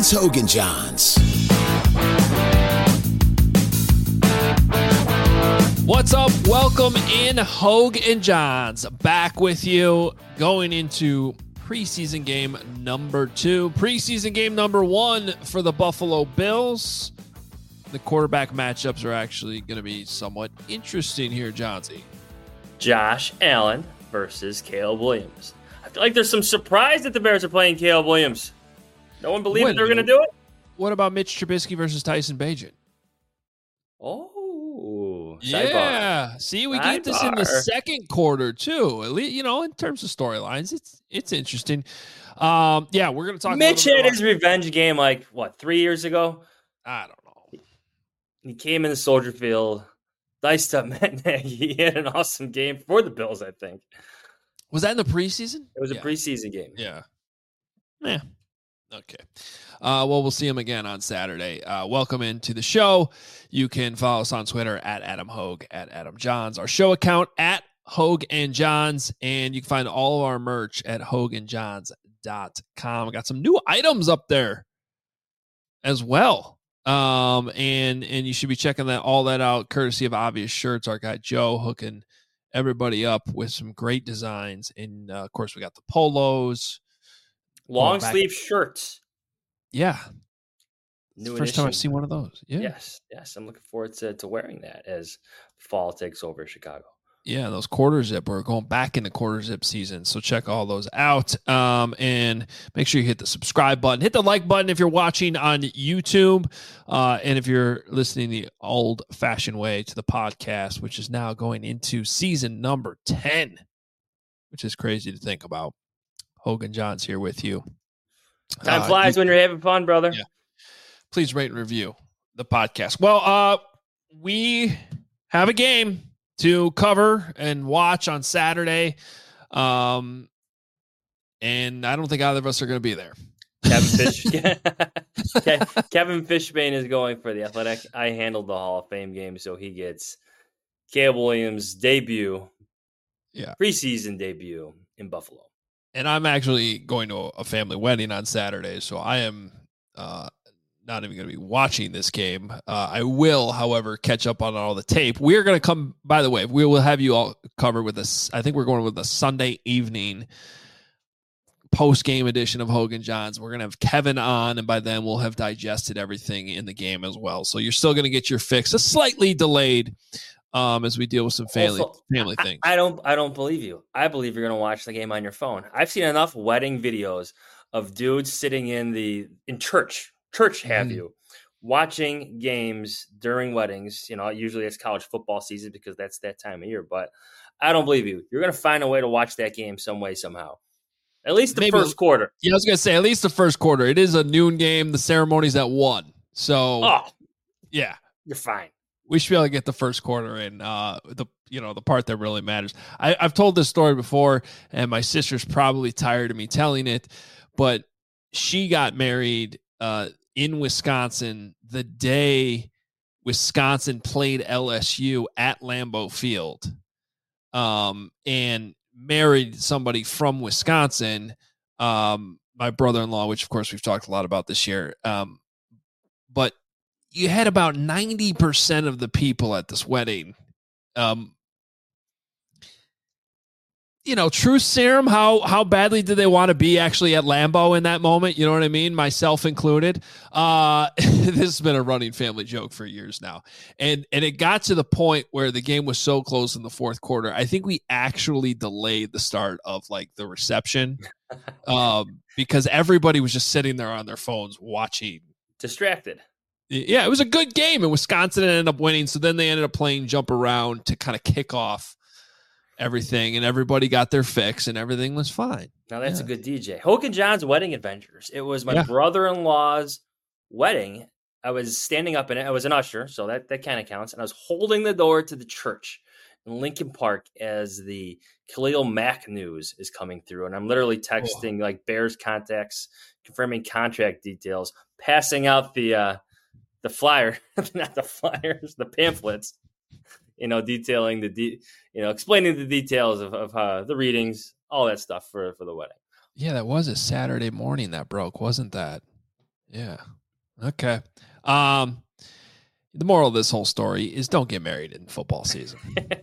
It's Hogan Johns. What's up? Welcome in, Hogue and Johns. Back with you going into preseason game number 2. Preseason game number 1 for the Buffalo Bills. The quarterback matchups are actually going to be somewhat interesting here, Johnsy. Josh Allen versus Caleb Williams. I feel like there's some surprise that the Bears are playing Caleb Williams. No one believed that they were going to do it. What about Mitch Trubisky versus Tyson Bagent? Oh, yeah. sidebar. See, we get this in the second quarter too. At least, in terms of storylines, it's interesting. We're going to talk. Mitch had his revenge game 3 years ago. I don't know. He came in the Soldier Field, diced up Matt Nagy. He had an awesome game for the Bills, I think. Was that in the preseason? It was a preseason game. Yeah. Okay. We'll see him again on Saturday. Welcome into the show. You can follow us on Twitter at Adam Hogue, at Adam Johns. Our show account at Hogue and Johns. And you can find all of our merch at hoganjohns.com. We got some new items up there as well. And you should be checking all that out, courtesy of Obvious Shirts. Our guy Joe hooking everybody up with some great designs. And of course, we got the polos, long sleeve shirts. Yeah. New First time I've seen one of those. Yeah. Yes. I'm looking forward to wearing that as fall takes over Chicago. Yeah, those quarter zip. We're going back into quarter zip season, so check all those out. And make sure you hit the subscribe button. Hit the like button if you're watching on YouTube. And if you're listening the old-fashioned way to the podcast, which is now going into season number 10, which is crazy to think about. Hogan Johns here with you. Time flies when you're having fun, brother. Yeah. Please rate and review the podcast. Well, we have a game to cover and watch on Saturday. And I don't think either of us are going to be there. Kevin Fishbane is going for the Athletic. I handled the Hall of Fame game, so he gets Caleb Williams' debut, preseason debut in Buffalo. And I'm actually going to a family wedding on Saturday, so I am not even going to be watching this game. I will, however, catch up on all the tape. We're going to come, by the way, we will have you all covered with this. I think we're going with a Sunday evening post-game edition of Hogan Johns. We're going to have Kevin on, and by then we'll have digested everything in the game as well. So you're still going to get your fix, a slightly delayed as we deal with some family things. I don't believe you. I believe you're going to watch the game on your phone. I've seen enough wedding videos of dudes sitting in church have you watching games during weddings. Usually it's college football season because that's that time of year, but I don't believe you. You're going to find a way to watch that game some way, somehow. At least the first quarter. Yeah, I was going to say at least the first quarter. It is a noon game. The ceremony's at 1. So, yeah. You're fine. We should be able to get the first quarter in, the part that really matters. I've told this story before, and my sister's probably tired of me telling it, but she got married in Wisconsin the day Wisconsin played LSU at Lambeau Field, and married somebody from Wisconsin, my brother-in-law, which of course we've talked a lot about this year. But you had about 90% of the people at this wedding, truth serum. How badly did they want to be actually at Lambeau in that moment? You know what I mean? Myself included. This has been a running family joke for years now. And it got to the point where the game was so close in the fourth quarter. I think we actually delayed the start of the reception because everybody was just sitting there on their phones watching. Distracted. Yeah, it was a good game, and Wisconsin ended up winning. So then they ended up playing jump around to kind of kick off everything, and everybody got their fix, and everything was fine. Now that's a good DJ. Hogan John's Wedding Adventures. It was my brother-in-law's wedding. I was standing up in it. I was an usher, so that kind of counts. And I was holding the door to the church in Lincoln Park as the Khalil Mack news is coming through. And I'm literally texting Bears contacts, confirming contract details, passing out the flyer, not the flyers, the pamphlets, detailing explaining the details of the readings, all that stuff for the wedding. Yeah, that was a Saturday morning that broke, wasn't that? Yeah. Okay. The moral of this whole story is don't get married in football season.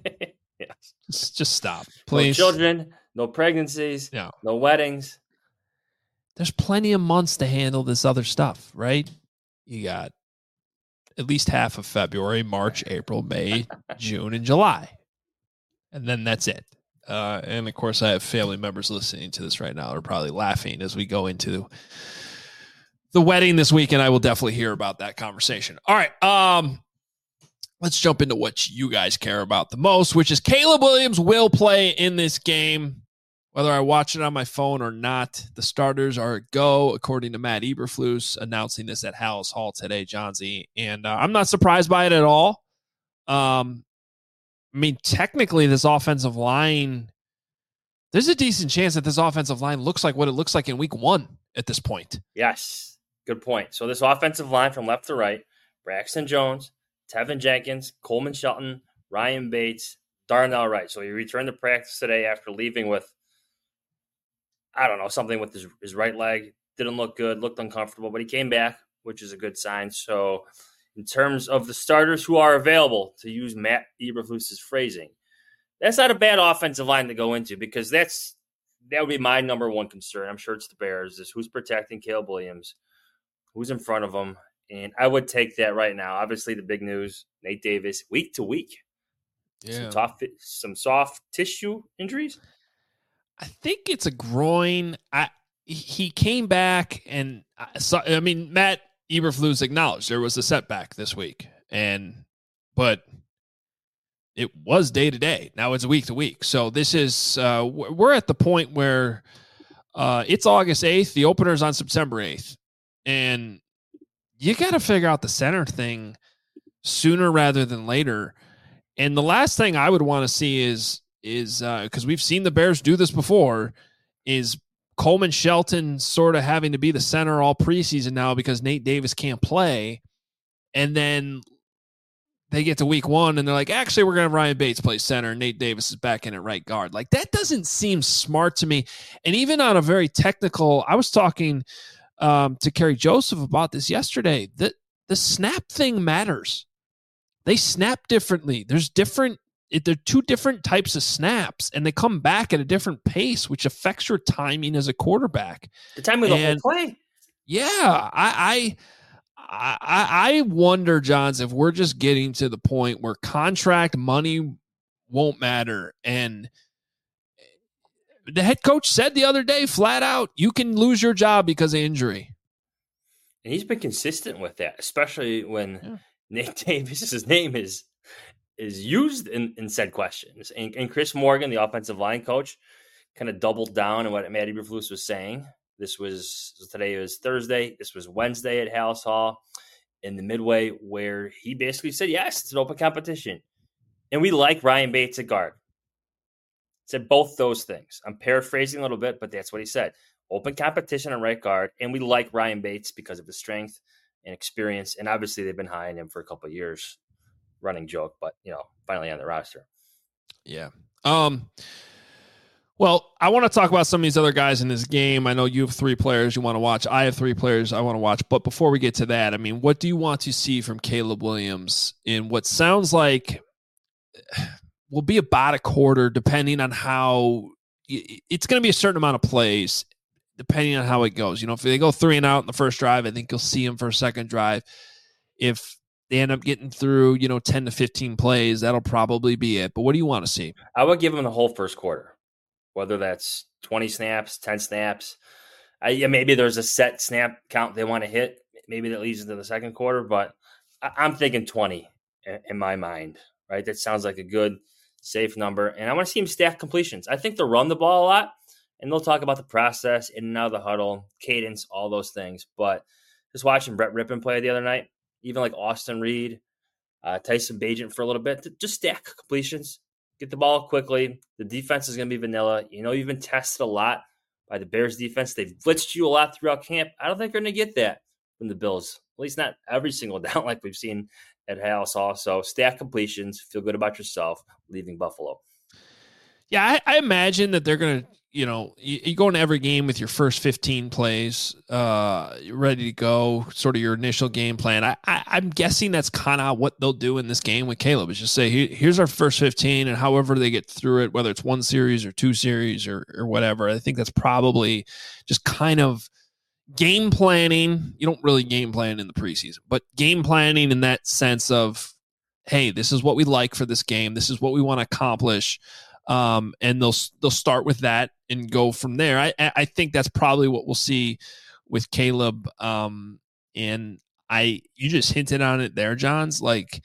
Yes. Just stop, please. No children, no pregnancies, no weddings. There's plenty of months to handle this other stuff, right? You got at least half of February, March, April, May, June, and July. And then that's it. And of course, I have family members listening to this right now. They're probably laughing as we go into the wedding this weekend. I will definitely hear about that conversation. All right. Let's jump into what you guys care about the most, which is Caleb Williams will play in this game, whether I watch it on my phone or not. The starters are a go, according to Matt Eberflus, announcing this at Halas Hall today, Johnsy. And I'm not surprised by it at all. I mean, technically, this offensive line, there's a decent chance that this offensive line looks like what it looks like in week 1 at this point. Yes, good point. So this offensive line from left to right, Braxton Jones, Tevin Jenkins, Coleman Shelton, Ryan Bates, Darnell Wright. So he returned to practice today after leaving with, I don't know, something with his right leg. Didn't look good, looked uncomfortable, but he came back, which is a good sign. So in terms of the starters who are available, to use Matt Eberflus's phrasing, that's not a bad offensive line to go into, because that would be my number one concern. I'm sure it's the Bears, is who's protecting Caleb Williams, who's in front of him. And I would take that right now. Obviously, the big news, Nate Davis, week to week. Yeah. Some soft tissue injuries. I think it's a groin. He came back, and Matt Eberflus acknowledged there was a setback this week, but it was day to day. Now it's week to week. So this is we're at the point where it's August 8th. The opener's on September 8th, and you got to figure out the center thing sooner rather than later. And the last thing I would want to see is because we've seen the Bears do this before, is Coleman Shelton sort of having to be the center all preseason now because Nate Davis can't play. And then they get to week 1 and they're like, actually, we're going to have Ryan Bates play center, and Nate Davis is back in at right guard. Like, that doesn't seem smart to me. And even on a very technical, I was talking to Kerry Joseph about this yesterday. The snap thing matters. They snap differently. There are 2 different types of snaps, and they come back at a different pace, which affects your timing as a quarterback. The timing of the whole play. Yeah, I wonder, Johns, if we're just getting to the point where contract money won't matter. And the head coach said the other day, flat out, you can lose your job because of injury. And he's been consistent with that, especially when Nate Davis's name is used in said questions. And Chris Morgan, the offensive line coach, kind of doubled down on what Matt Eberflus was saying. Today was Thursday. This was Wednesday at Halas Hall in the Midway, where he basically said, yes, it's an open competition. And we like Ryan Bates at guard. Said both those things. I'm paraphrasing a little bit, but that's what he said. Open competition on right guard, and we like Ryan Bates because of his strength and experience. And obviously they've been high on him for a couple of years. Running joke, but finally on the roster. Yeah. Well, I want to talk about some of these other guys in this game. I know you have 3 players you want to watch. I have 3 players I want to watch. But before we get to that, I mean, what do you want to see from Caleb Williams in what sounds like will be about a quarter, depending on how it's going to be a certain amount of plays, depending on how it goes. If they go 3 and out in the first drive, I think you'll see him for a second drive. If they end up getting through, 10 to 15 plays, that'll probably be it. But what do you want to see? I would give him the whole first quarter, whether that's 20 snaps, 10 snaps. Maybe there's a set snap count they want to hit. Maybe that leads into the second quarter, but I'm thinking 20 in my mind, right? That sounds like a good, safe number. And I want to see him stack completions. I think they'll run the ball a lot, and they'll talk about the process, in and out of the huddle, cadence, all those things. But just watching Brett Rippon play the other night, even like Austin Reed, Tyson Bagent for a little bit, just stack completions, get the ball quickly. The defense is going to be vanilla. You've been tested a lot by the Bears defense. They've blitzed you a lot throughout camp. I don't think they're going to get that from the Bills, at least not every single down like we've seen at Halas Hall. So stack completions, feel good about yourself leaving Buffalo. Yeah, I imagine that they're going to you go into every game with your first 15 plays ready to go, sort of your initial game plan. I'm guessing that's kind of what they'll do in this game with Caleb, is just say, here's our first 15, and however they get through it, whether it's one series or two series or whatever. I think that's probably just kind of game planning. You don't really game plan in the preseason, but game planning in that sense of, hey, this is what we like for this game. This is what we want to accomplish. And they'll start with that and go from there. I think that's probably what we'll see with Caleb. And you just hinted on it there, Johns. Like,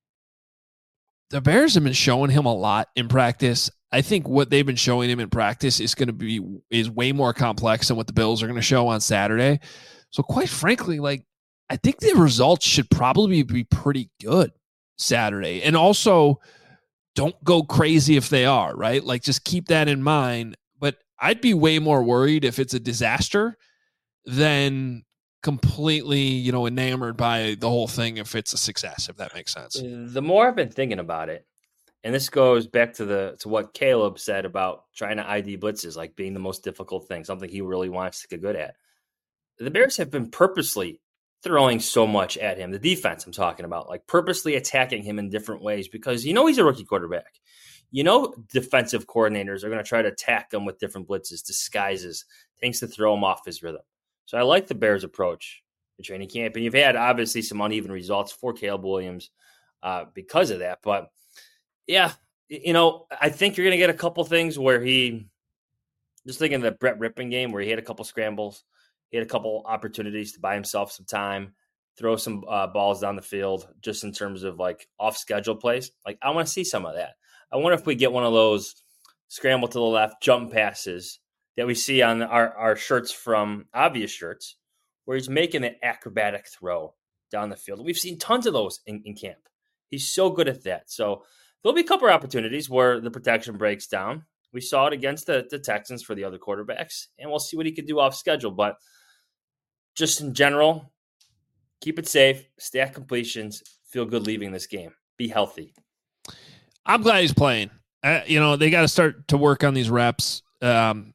the Bears have been showing him a lot in practice. I think what they've been showing him in practice is way more complex than what the Bills are going to show on Saturday. So quite frankly, like, I think the results should probably be pretty good Saturday. And also, don't go crazy if they are, right? Like, just keep that in mind. But I'd be way more worried if it's a disaster than completely, enamored by the whole thing if it's a success, if that makes sense. The more I've been thinking about it, and this goes back to what Caleb said about trying to ID blitzes, like being the most difficult thing, something he really wants to get good at. The Bears have been purposely throwing so much at him. The defense I'm talking about, like purposely attacking him in different ways, because he's a rookie quarterback. Defensive coordinators are going to try to attack him with different blitzes, disguises, things to throw him off his rhythm. So I like the Bears' approach to training camp. And you've had obviously some uneven results for Caleb Williams because of that. But yeah, I think you're going to get a couple things where just thinking of the Brett Rippon game where he had a couple scrambles. He had a couple opportunities to buy himself some time, throw some balls down the field, just in terms of like off schedule plays. Like, I want to see some of that. I wonder if we get one of those scramble to the left jump passes that we see on our shirts from Obvious Shirts, where he's making an acrobatic throw down the field. We've seen tons of those in camp. He's so good at that. So there'll be a couple of opportunities where the protection breaks down. We saw it against the Texans for the other quarterbacks, and we'll see what he can do off schedule. But just in general, keep it safe, stack completions, feel good leaving this game. Be healthy. I'm glad he's playing. They got to start to work on these reps. I don't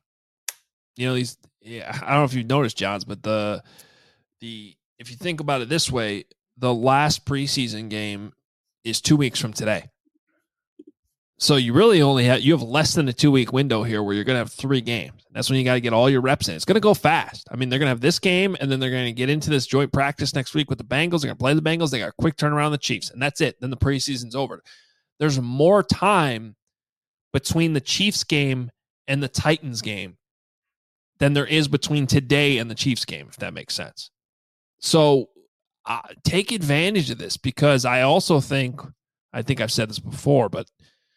know if you've noticed, Johns, but if you think about it this way, the last preseason game is 2 weeks from today. So you really you have less than a 2-week window here where you're going to have 3 games. That's when you got to get all your reps in. It's going to go fast. I mean, they're going to have this game, and then they're going to get into this joint practice next week with the Bengals. They're going to play the Bengals. They got a quick turnaround the Chiefs, and that's it. Then the preseason's over. There's more time between the Chiefs game and the Titans game than there is between today and the Chiefs game, if that makes sense. So take advantage of this, because I also think I've said this before, but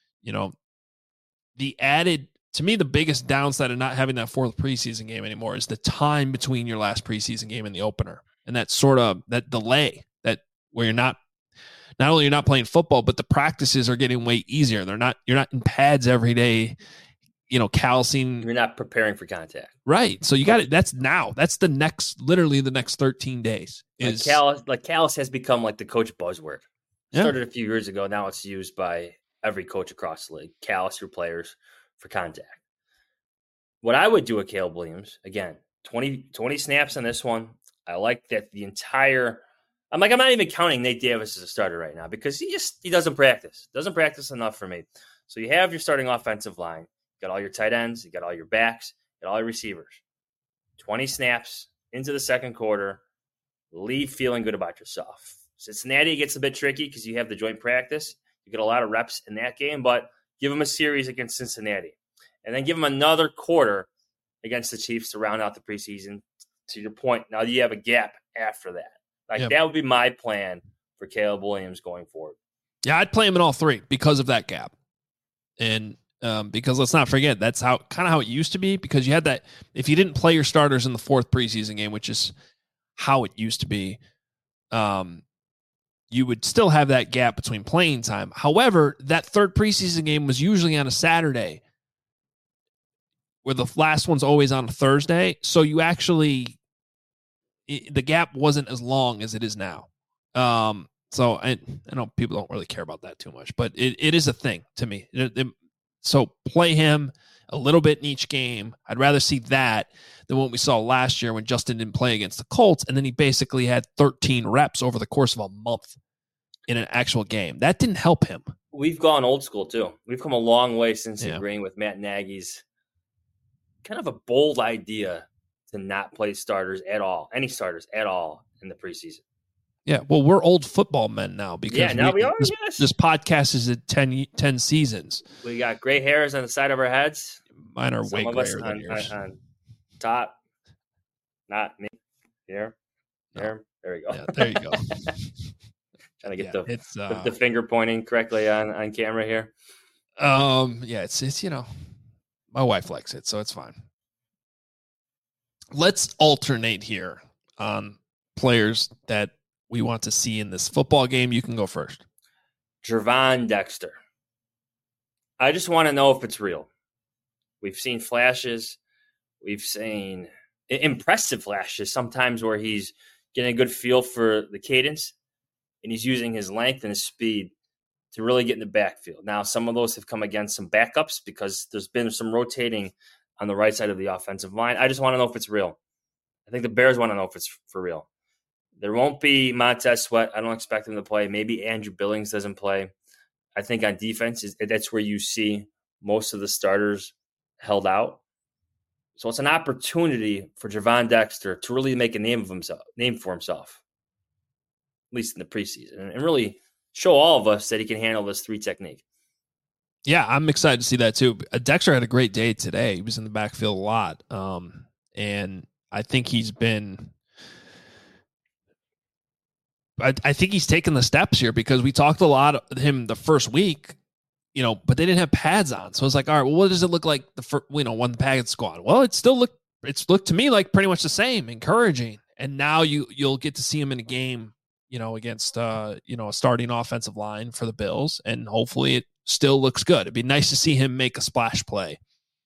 to me, the biggest downside of not having that 4th preseason game anymore is the time between your last preseason game and the opener. And that sort of that delay where you're not only you're not playing football, but the practices are getting way easier. You're not in pads every day, callousing. You're not preparing for contact. Right. So you got it. That's now. That's literally the next 13 days. Callous has become like the coach buzzword. Started a few years ago. Now it's used by every coach across the league. Callous your players for contact. What I would do with Caleb Williams, again, 20 snaps on this one. I like that I'm not even counting Nate Davis as a starter right now, because he doesn't practice. Doesn't practice enough for me. So you have your starting offensive line. You got all your tight ends. You got all your backs. You got all your receivers. 20 snaps into the second quarter. Leave feeling good about yourself. Cincinnati gets a bit tricky because you have the joint practice. You get a lot of reps in that game, but give them a series against Cincinnati. And then give them another quarter against the Chiefs to round out the preseason. To your point, now you have a gap after that. That would be my plan for Caleb Williams going forward. Yeah, I'd play him in all 3 because of that gap. And because let's not forget, that's kind of how it used to be, because you had that, if you didn't play your starters in the 4th preseason game, which is how it used to be, you would still have that gap between playing time. However, that 3rd preseason game was usually on a Saturday, where the last one's always on a Thursday. So you the gap wasn't as long as it is now. So I know people don't really care about that too much, but it is a thing to me. So play him. a little bit in each game. I'd rather see that than what we saw last year when Justin didn't play against the Colts, and then he basically had 13 reps over the course of a month in an actual game. That didn't help him. We've gone old school, too. We've come a long way since agreeing with Matt Nagy's kind of a bold idea to not play starters at all, any starters at all in the preseason. Yeah, well, we're old football men now because we are. This podcast is at 10 seasons. We got gray hairs on the side of our heads. Mine are way grayer than yours. On top, not me. Here, there we go. Yeah, there you go. Trying to get the finger pointing correctly on camera here. Yeah, it's my wife likes it, so it's fine. Let's alternate here on players that we want to see in this football game. You can go first. Gervon Dexter. I just want to know if it's real. We've seen flashes. We've seen impressive flashes sometimes where he's getting a good feel for the cadence and he's using his length and his speed to really get in the backfield. Now, some of those have come against some backups because there's been some rotating on the right side of the offensive line. I just want to know if it's real. I think the Bears want to know if it's for real. There won't be Montez Sweat. I don't expect him to play. Maybe Andrew Billings doesn't play. I think on defense, that's where you see most of the starters held out. So it's an opportunity for Gervon Dexter to really make a name for himself, at least in the preseason, and really show all of us that he can handle this 3 technique. Yeah, I'm excited to see that too. Dexter had a great day today. He was in the backfield a lot. And I think he's been I think he's taken the steps here because we talked a lot of him the first week, but they didn't have pads on. So it's like, all right, well, what does it look like when the pads go on? Well, it's looked to me like pretty much the same, encouraging. And now you'll get to see him in a game, against a starting offensive line for the Bills, and hopefully it still looks good. It'd be nice to see him make a splash play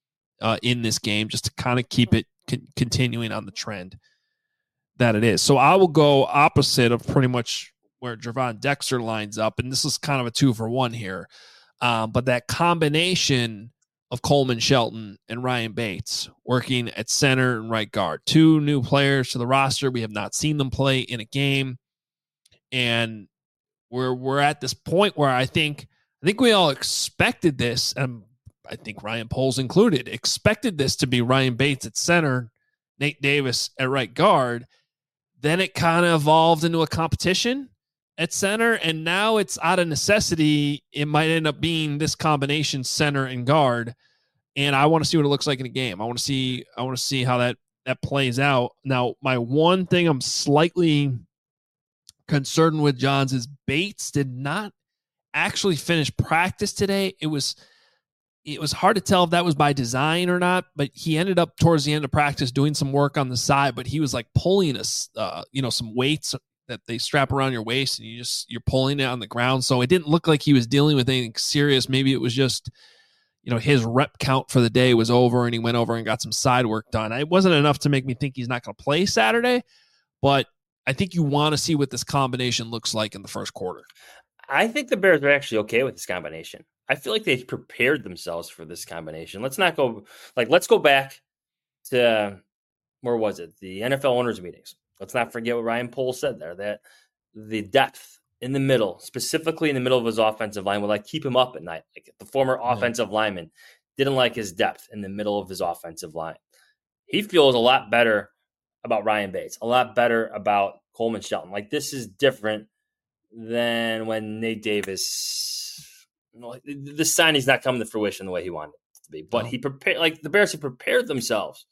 in this game just to kind of keep it continuing on the trend that it is. So I will go opposite of pretty much where Gervon Dexter lines up, and this is kind of a 2-for-1 here. But that combination of Coleman Shelton and Ryan Bates working at center and right guard, 2 new players to the roster. We have not seen them play in a game, and we're at this point where I think we all expected this, and I think Ryan Poles included, expected this to be Ryan Bates at center, Nate Davis at right guard. Then it kind of evolved into a competition at center, and now it's out of necessity. It might end up being this combination center and guard, and I want to see what it looks like in a game. I want to see how that plays out. Now, my one thing I'm slightly concerned with, Johns, is Bates did not actually finish practice today. It was hard to tell if that was by design or not, but he ended up towards the end of practice doing some work on the side, but he was like pulling some weights that they strap around your waist and you're pulling it on the ground. So it didn't look like he was dealing with anything serious. Maybe it was just, his rep count for the day was over and he went over and got some side work done. It wasn't enough to make me think he's not going to play Saturday, but I think you want to see what this combination looks like in the first quarter. I think the Bears are actually okay with this combination. I feel like they prepared themselves for this combination. Let's go back to, where was it? The NFL owners meetings. Let's not forget what Ryan Poles said there, that the depth in the middle, specifically in the middle of his offensive line, would keep him up at night. Like the former offensive lineman didn't like his depth in the middle of his offensive line. He feels a lot better about Ryan Bates, a lot better about Coleman Shelton. Like this is different than when Nate Davis, the signing's not coming to fruition the way he wanted it to be. But he prepared, the Bears have prepared themselves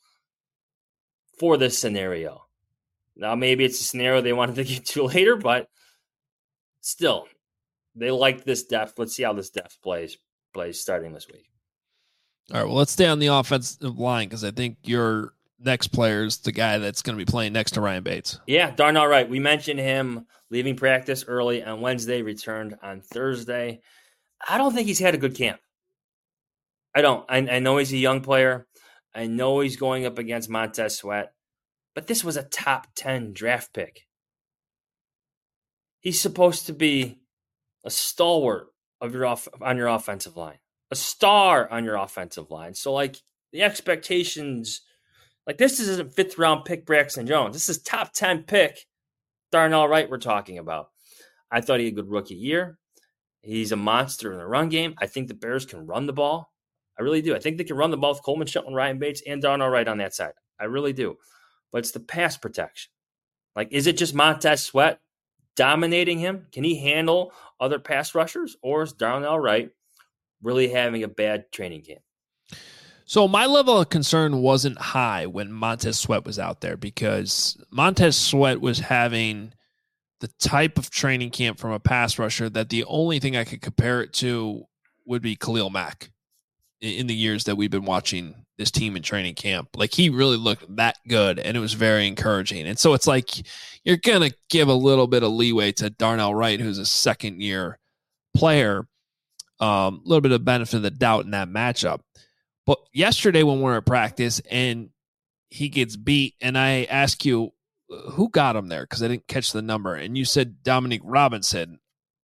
for this scenario. Now, maybe it's a scenario they wanted to get to later, but still, they like this depth. Let's see how this depth plays starting this week. All right, well, let's stay on the offensive line because I think your next player is the guy that's going to be playing next to Ryan Bates. Yeah, darn all right. We mentioned him leaving practice early on Wednesday, returned on Thursday. I don't think he's had a good camp. I don't. I know he's a young player. I know he's going up against Montez Sweat, but this was a top 10 draft pick. He's supposed to be a stalwart on your offensive line, a star on your offensive line. So, like, the expectations, like, this isn't 5th round pick Braxton Jones. This is top 10 pick Darnell Wright we're talking about. I thought he had a good rookie year. He's a monster in the run game. I think the Bears can run the ball. I really do. I think they can run the ball with Coleman Shelton, Ryan Bates, and Darnell Wright on that side. I really do. But it's the pass protection. Like, is it just Montez Sweat dominating him? Can he handle other pass rushers? Or is Darnell Wright really having a bad training camp? So my level of concern wasn't high when Montez Sweat was out there, because Montez Sweat was having the type of training camp from a pass rusher that the only thing I could compare it to would be Khalil Mack in the years that we've been watching this team in training camp. Like, he really looked that good, and it was very encouraging. And so it's like you're going to give a little bit of leeway to Darnell Wright, who's a second-year player, a little bit of benefit of the doubt in that matchup. But yesterday when we were at practice and he gets beat, and I ask you, who got him there? Because I didn't catch the number. And you said Dominique Robinson.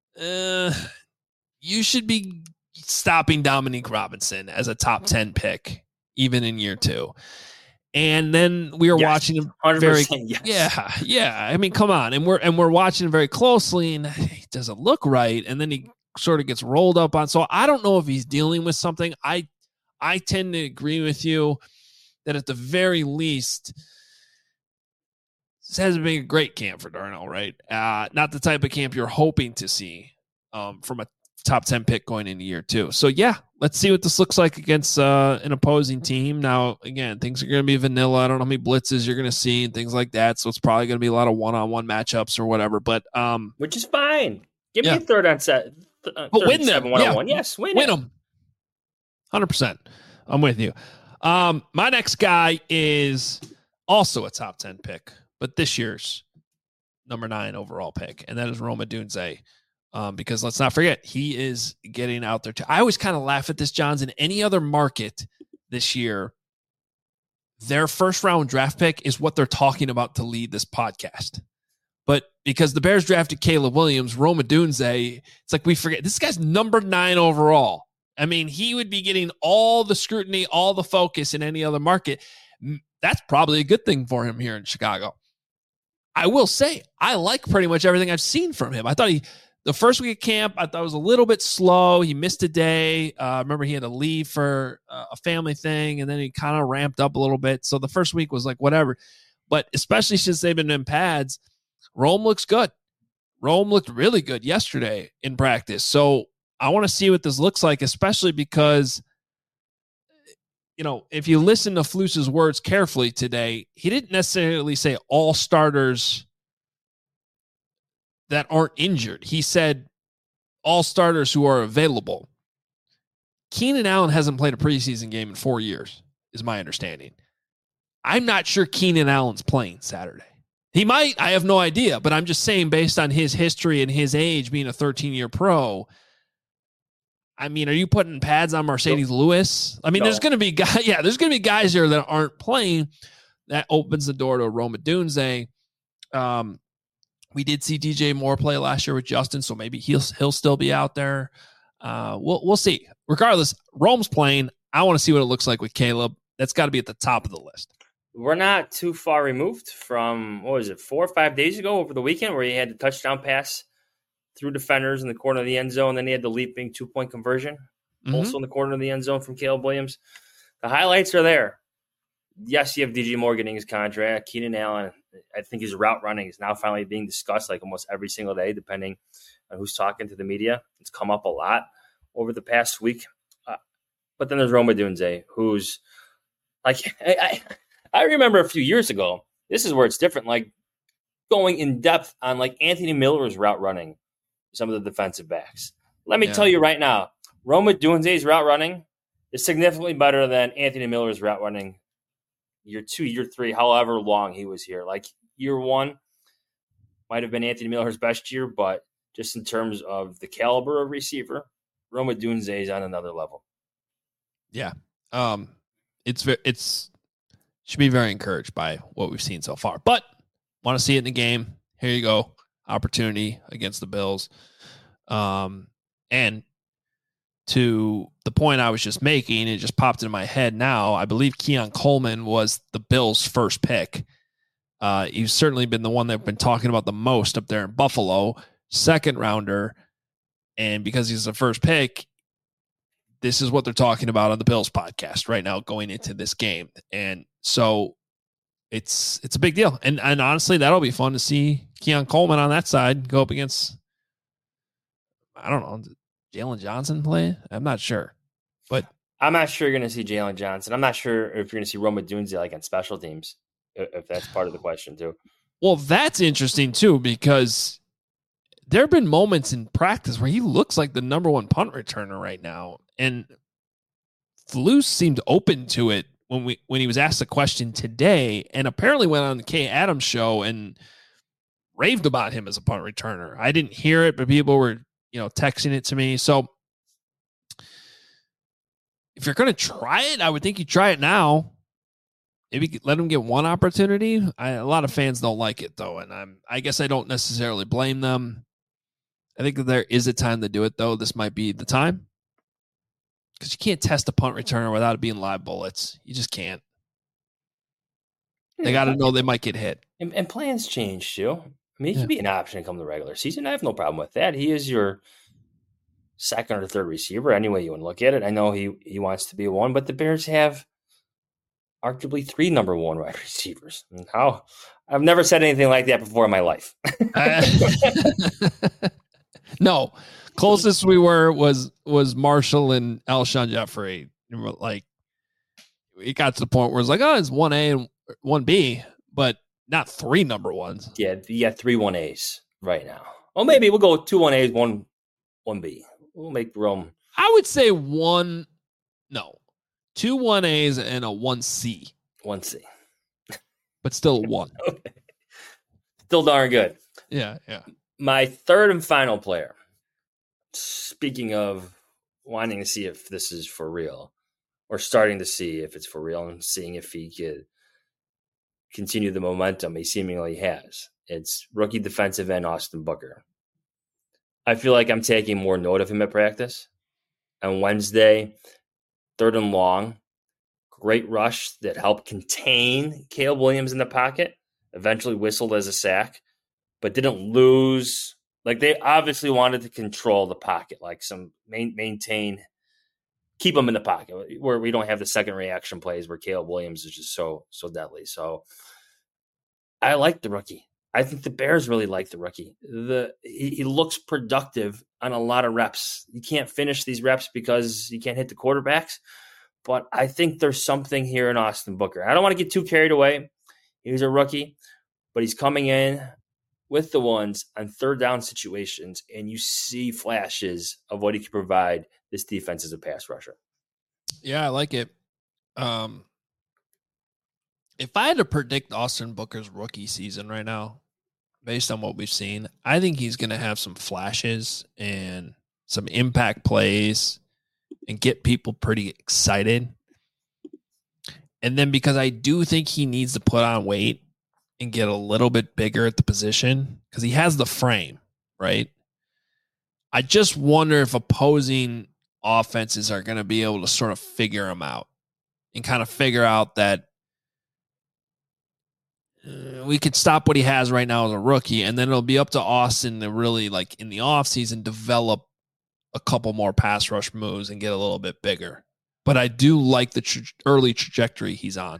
You should be stopping Dominique Robinson as a top 10 pick, even in year 2. And then we were watching him very, yeah. I mean, come on. And we're watching him very closely, and he doesn't look right. And then he sort of gets rolled up on. So I don't know if he's dealing with something. I tend to agree with you that at the very least, this hasn't been a great camp for Darnell, right? Not the type of camp you're hoping to see from a top 10 pick going into year 2. So, yeah, let's see what this looks like against an opposing team. Now, again, things are going to be vanilla. I don't know how many blitzes you're going to see and things like that. So it's probably going to be a lot of one-on-one matchups or whatever. But which is fine. Give me a third on set. But win them. One-on-one. Yes, win them. 100%. I'm with you. My next guy is also a top 10 pick, but this year's number 9 overall pick, and that is Rome Odunze. Because let's not forget, he is getting out there too. I always kind of laugh at this, Johns. In any other market this year, their first round draft pick is what they're talking about to lead this podcast. But because the Bears drafted Caleb Williams, Rome Odunze, it's like we forget this guy's number 9 overall. I mean, he would be getting all the scrutiny, all the focus in any other market. That's probably a good thing for him here in Chicago. I will say, I like pretty much everything I've seen from him. I thought the first week of camp, I thought it was a little bit slow. He missed a day. Remember, he had to leave for a family thing, and then he kind of ramped up a little bit. So the first week was like whatever. But especially since they've been in pads, Rome looks good. Rome looked really good yesterday in practice. So I want to see what this looks like, especially because, you know, if you listen to Flus's words carefully today, he didn't necessarily say all starters that aren't injured. He said all starters who are available. Keenan Allen hasn't played a preseason game in 4 years, is my understanding. I'm not sure Keenan Allen's playing Saturday. He might. I have no idea. But I'm just saying, based on his history and his age being a 13-year pro, I mean, are you putting pads on Mercedes Lewis? I mean, there's going to be guys. Yeah, there's going to be guys here that aren't playing. That opens the door to Rome Odunze. We did see DJ Moore play last year with Justin, so maybe he'll still be out there. We'll see. Regardless, Rome's playing. I want to see what it looks like with Caleb. That's got to be at the top of the list. We're not too far removed from, 4 or 5 days ago over the weekend where he had the touchdown pass through defenders in the corner of the end zone. Then he had the leaping 2-point conversion, also in the corner of the end zone from Caleb Williams. The highlights are there. Yes, you have DJ Moore getting his contract. Keenan Allen, I think his route running is now finally being discussed like almost every single day, depending on who's talking to the media. It's come up a lot over the past week. But then there's Rome Odunze, who's like, I remember a few years ago, this is where it's different, like going in depth on like Anthony Miller's route running, some of the defensive backs. Let me tell you right now, Rome Odunze's route running is significantly better than Anthony Miller's route running year 2, year 3, however long he was here. Like year 1 might have been Anthony Miller's best year, but just in terms of the caliber of receiver, Rome Odunze is on another level. Yeah. It's should be very encouraged by what we've seen so far, but want to see it in the game. Here you go. Opportunity against the Bills. And to the point I was just making, it just popped into my head now. I believe Keon Coleman was the Bills' first pick. He's certainly been the one that I've been talking about the most up there in Buffalo, second rounder. And because he's the first pick, this is what they're talking about on the Bills podcast right now going into this game. And so it's a big deal. And honestly, that'll be fun to see Keon Coleman on that side go up against, I don't know, Jalen Johnson play? I'm not sure. But I'm not sure you're going to see Jalen Johnson. I'm not sure if you're going to see Rome Odunze like on special teams, if that's part of the question too. Well, that's interesting too, because there have been moments in practice where he looks like the number one punt returner right now. And Flus seemed open to it when he was asked the question today, and apparently went on the Kay Adams show and raved about him as a punt returner. I didn't hear it, but people were, texting it to me. So if you're going to try it, I would think you try it now. Maybe let him get one opportunity. A lot of fans don't like it though, and I guess I don't necessarily blame them. I think that there is a time to do it though. This might be the time, because you can't test a punt returner without it being live bullets. You just can't. They got to know they might get hit. And plans change too. I mean, he could be an option to come to the regular season. I have no problem with that. He is your second or third receiver, any way you want to look at it. I know he wants to be one, but the Bears have arguably 3 number 1 wide receivers. And I've never said anything like that before in my life. No, closest we were was Marshall and Alshon Jeffrey. Like, it got to the point where it's like, it's 1A and 1B, but not 3 number 1s. Yeah, you got 3 1As right now. Oh, maybe we'll go 2 1As, 1 1B. We'll make Rome. I would say 2 1As and a 1C. 1C. But still 1. Okay. Still darn good. Yeah. My third and final player, speaking of wanting to see if this is for real, or starting to see if it's for real and seeing if he could continue the momentum he seemingly has, it's rookie defensive end Austin Booker. I feel like I'm taking more note of him at practice. On Wednesday, 3rd and long, great rush that helped contain Caleb Williams in the pocket, eventually whistled as a sack, but didn't lose. Like, they obviously wanted to control the pocket, like maintain, keep him in the pocket, where we don't have the second reaction plays where Caleb Williams is just so deadly. So I like the rookie. I think the Bears really like the rookie. He looks productive on a lot of reps. You can't finish these reps because you can't hit the quarterbacks, but I think there's something here in Austin Booker. I don't want to get too carried away. He's a rookie, but he's coming in with the ones on third down situations, and you see flashes of what he can provide this defense as a pass rusher. Yeah, I like it. If I had to predict Austin Booker's rookie season right now, based on what we've seen, I think he's going to have some flashes and some impact plays and get people pretty excited. And then because I do think he needs to put on weight and get a little bit bigger at the position, because he has the frame, right? I just wonder if opposing offenses are going to be able to sort of figure him out and kind of figure out that we could stop what he has right now as a rookie, and then it'll be up to Austin to really, like, in the offseason, develop a couple more pass rush moves and get a little bit bigger. But I do like the early trajectory he's on.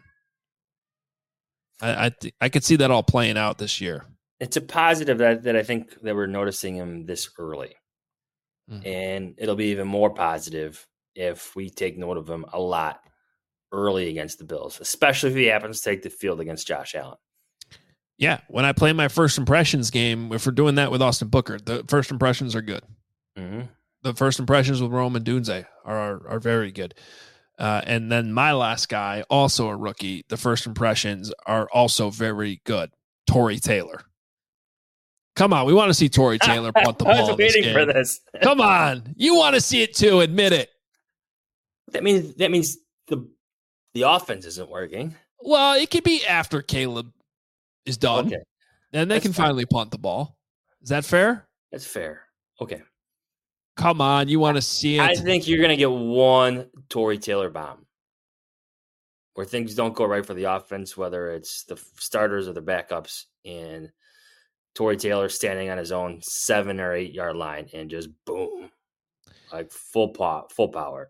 I could see that all playing out this year. It's a positive that I think that we're noticing him this early. And it'll be even more positive if we take note of him a lot early against the Bills, especially if he happens to take the field against Josh Allen. Yeah, when I play my first impressions game, if we're doing that with Austin Booker, the first impressions are good. Mm-hmm. The first impressions with Rome Odunze are very good. And then my last guy, also a rookie, the first impressions are also very good. Tory Taylor. Come on, we want to see Tory Taylor punt the ball. I was waiting for this. Come on, you want to see it too. Admit it. That means the offense isn't working. Well, it could be after Caleb is done, okay, and they can finally punt the ball. Is that fair? That's fair. Okay. come on. You want to see it? I think you're going to get one Tory Taylor bomb where things don't go right for the offense, whether it's the starters or the backups, and Tory Taylor standing on his own 7 or 8 yard line and just boom, like full power.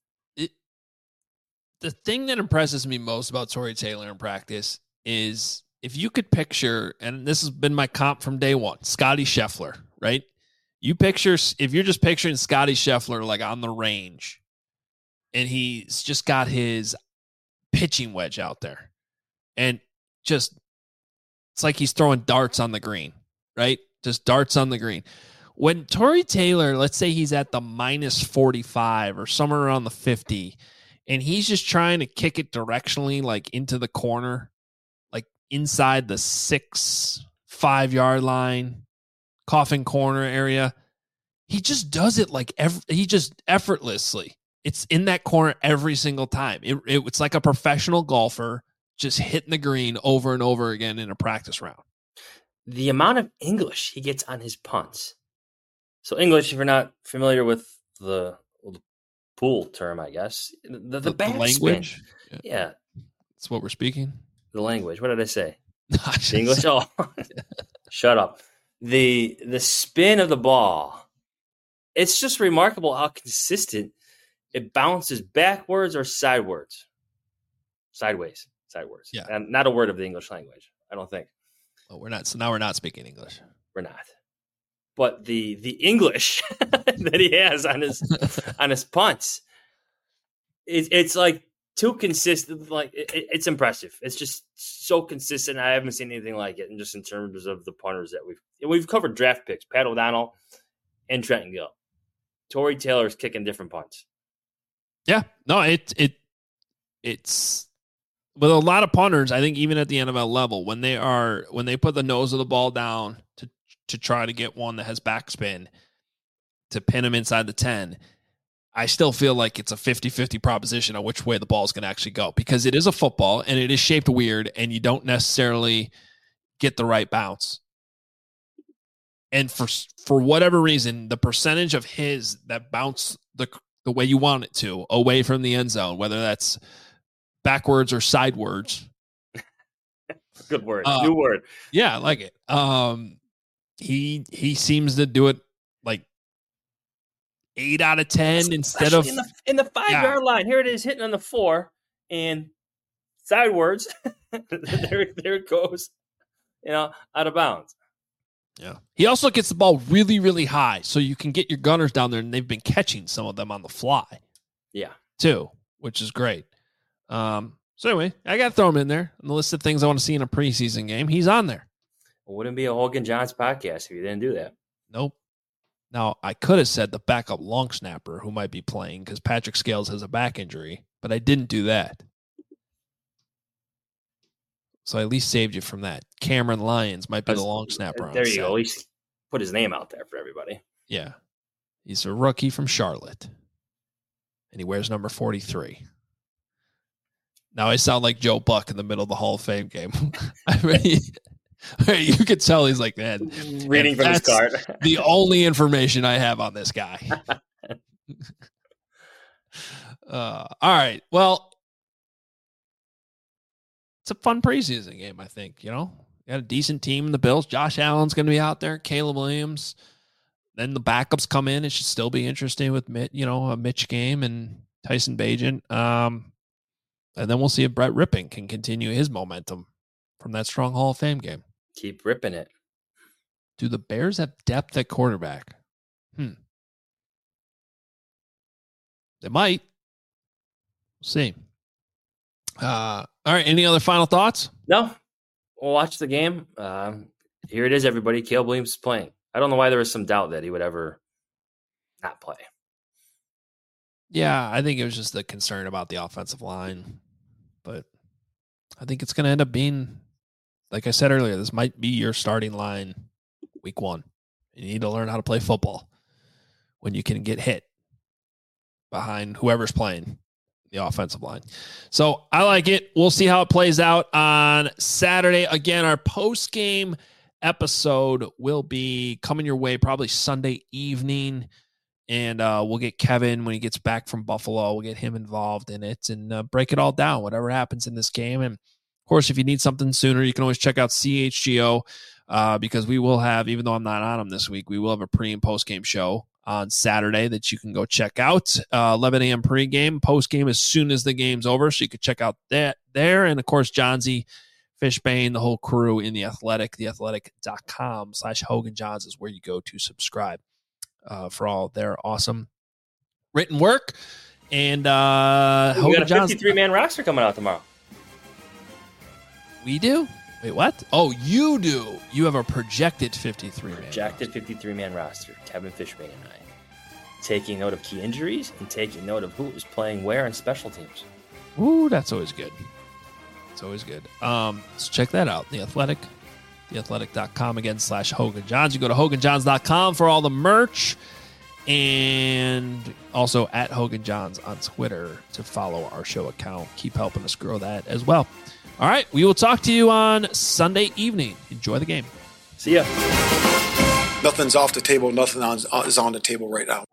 The thing that impresses me most about Tory Taylor in practice is if you could picture, and this has been my comp from day one, Scotty Scheffler, right? If you're just picturing Scotty Scheffler like on the range and he's just got his pitching wedge out there and just, it's like he's throwing darts on the green, right? Just darts on the green. When Tory Taylor, let's say he's at the minus 45 or somewhere around the 50, and he's just trying to kick it directionally, like into the corner, like inside the 5 yard line, coffin corner area. He just does it like he just effortlessly. It's in that corner every single time. It's like a professional golfer just hitting the green over and over again in a practice round. The amount of English he gets on his punts. So English, if you're not familiar with the pool term, I guess, the language. Yeah. That's what we're speaking. The language. What did I say? The English. Oh, shut up. The spin of the ball. It's just remarkable how consistent it bounces backwards or sideways. Yeah. And not a word of the English language, I don't think. Oh, we're not. So now we're not speaking English. We're not. But the English that he has on his punts, it's like too consistent. Like it's impressive. It's just so consistent. I haven't seen anything like it. And just in terms of the punters that we've covered draft picks, Pat O'Donnell and Trenton Gill. Tory Taylor's kicking different punts. Yeah, no, it's with a lot of punters. I think even at the NFL level, when they put the nose of the ball down to try to get one that has backspin to pin him inside the 10, I still feel like it's a 50-50 proposition on which way the ball is going to actually go, because it is a football and it is shaped weird and you don't necessarily get the right bounce. And for whatever reason, the percentage of his that bounce the way you want it to away from the end zone, whether that's backwards or sidewards. Good word. New word. Yeah, I like it. He seems to do it like 8 out of 10 instead of in the 5 yard line. Here it is hitting on the 4 and sidewards. there it goes. Out of bounds. Yeah. He also gets the ball really, really high, so you can get your gunners down there, and they've been catching some of them on the fly. Yeah. Too, which is great. So anyway, I got to throw him in there on the list of things I want to see in a preseason game. He's on there. It wouldn't be a Hogan Johns podcast if you didn't do that. Nope. Now, I could have said the backup long snapper who might be playing because Patrick Scales has a back injury, but I didn't do that. So I at least saved you from that. Cameron Lyons might be the long snapper. There you go. At least put his name out there for everybody. Yeah. He's a rookie from Charlotte. And he wears number 43. Now I sound like Joe Buck in the middle of the Hall of Fame game. I mean, you could tell he's like, man, reading from his card. The only information I have on this guy. All right. Well, it's a fun preseason game, I think. Got a decent team in the Bills. Josh Allen's going to be out there. Caleb Williams. Then the backups come in. It should still be interesting with a Mitch game and Tyson Bagent. And then we'll see if Brett Rippon can continue his momentum from that strong Hall of Fame game. Keep ripping it. Do the Bears have depth at quarterback? They might. We'll see. All right. Any other final thoughts? No. We'll watch the game. Here it is, everybody. Caleb Williams is playing. I don't know why there was some doubt that he would ever not play. Yeah, I think it was just the concern about the offensive line. But I think it's going to end up being, like I said earlier, this might be your starting line week 1. You need to learn how to play football when you can get hit behind whoever's playing the offensive line. So I like it. We'll see how it plays out on Saturday. Again, our post-game episode will be coming your way probably Sunday evening. And we'll get Kevin when he gets back from Buffalo. We'll get him involved in it and break it all down, whatever happens in this game. And, of course, if you need something sooner, you can always check out CHGO because we will have, even though I'm not on them this week, we will have a pre- and post-game show on Saturday that you can go check out. 11 a.m. pregame, postgame as soon as the game's over, so you can check out that there. And, of course, Johnsy, Fishbane, the whole crew in The Athletic, theathletic.com/Hogan Johns is where you go to subscribe for all their awesome written work. And we got Hogan a Johns 53-man roster coming out tomorrow. We do? Wait, what? Oh, you do. You have a projected 53-man Projected 53-man roster. Kevin Fishbane and I. Taking note of key injuries and taking note of who was playing where in special teams. Ooh, that's always good. It's always good. So check that out. The Athletic, theathletic.com again /Hogan Johns. You go to HoganJohns.com for all the merch. And also at Hogan Johns on Twitter to follow our show account. Keep helping us grow that as well. All right, we will talk to you on Sunday evening. Enjoy the game. See ya. Nothing's off the table. Nothing is on the table right now.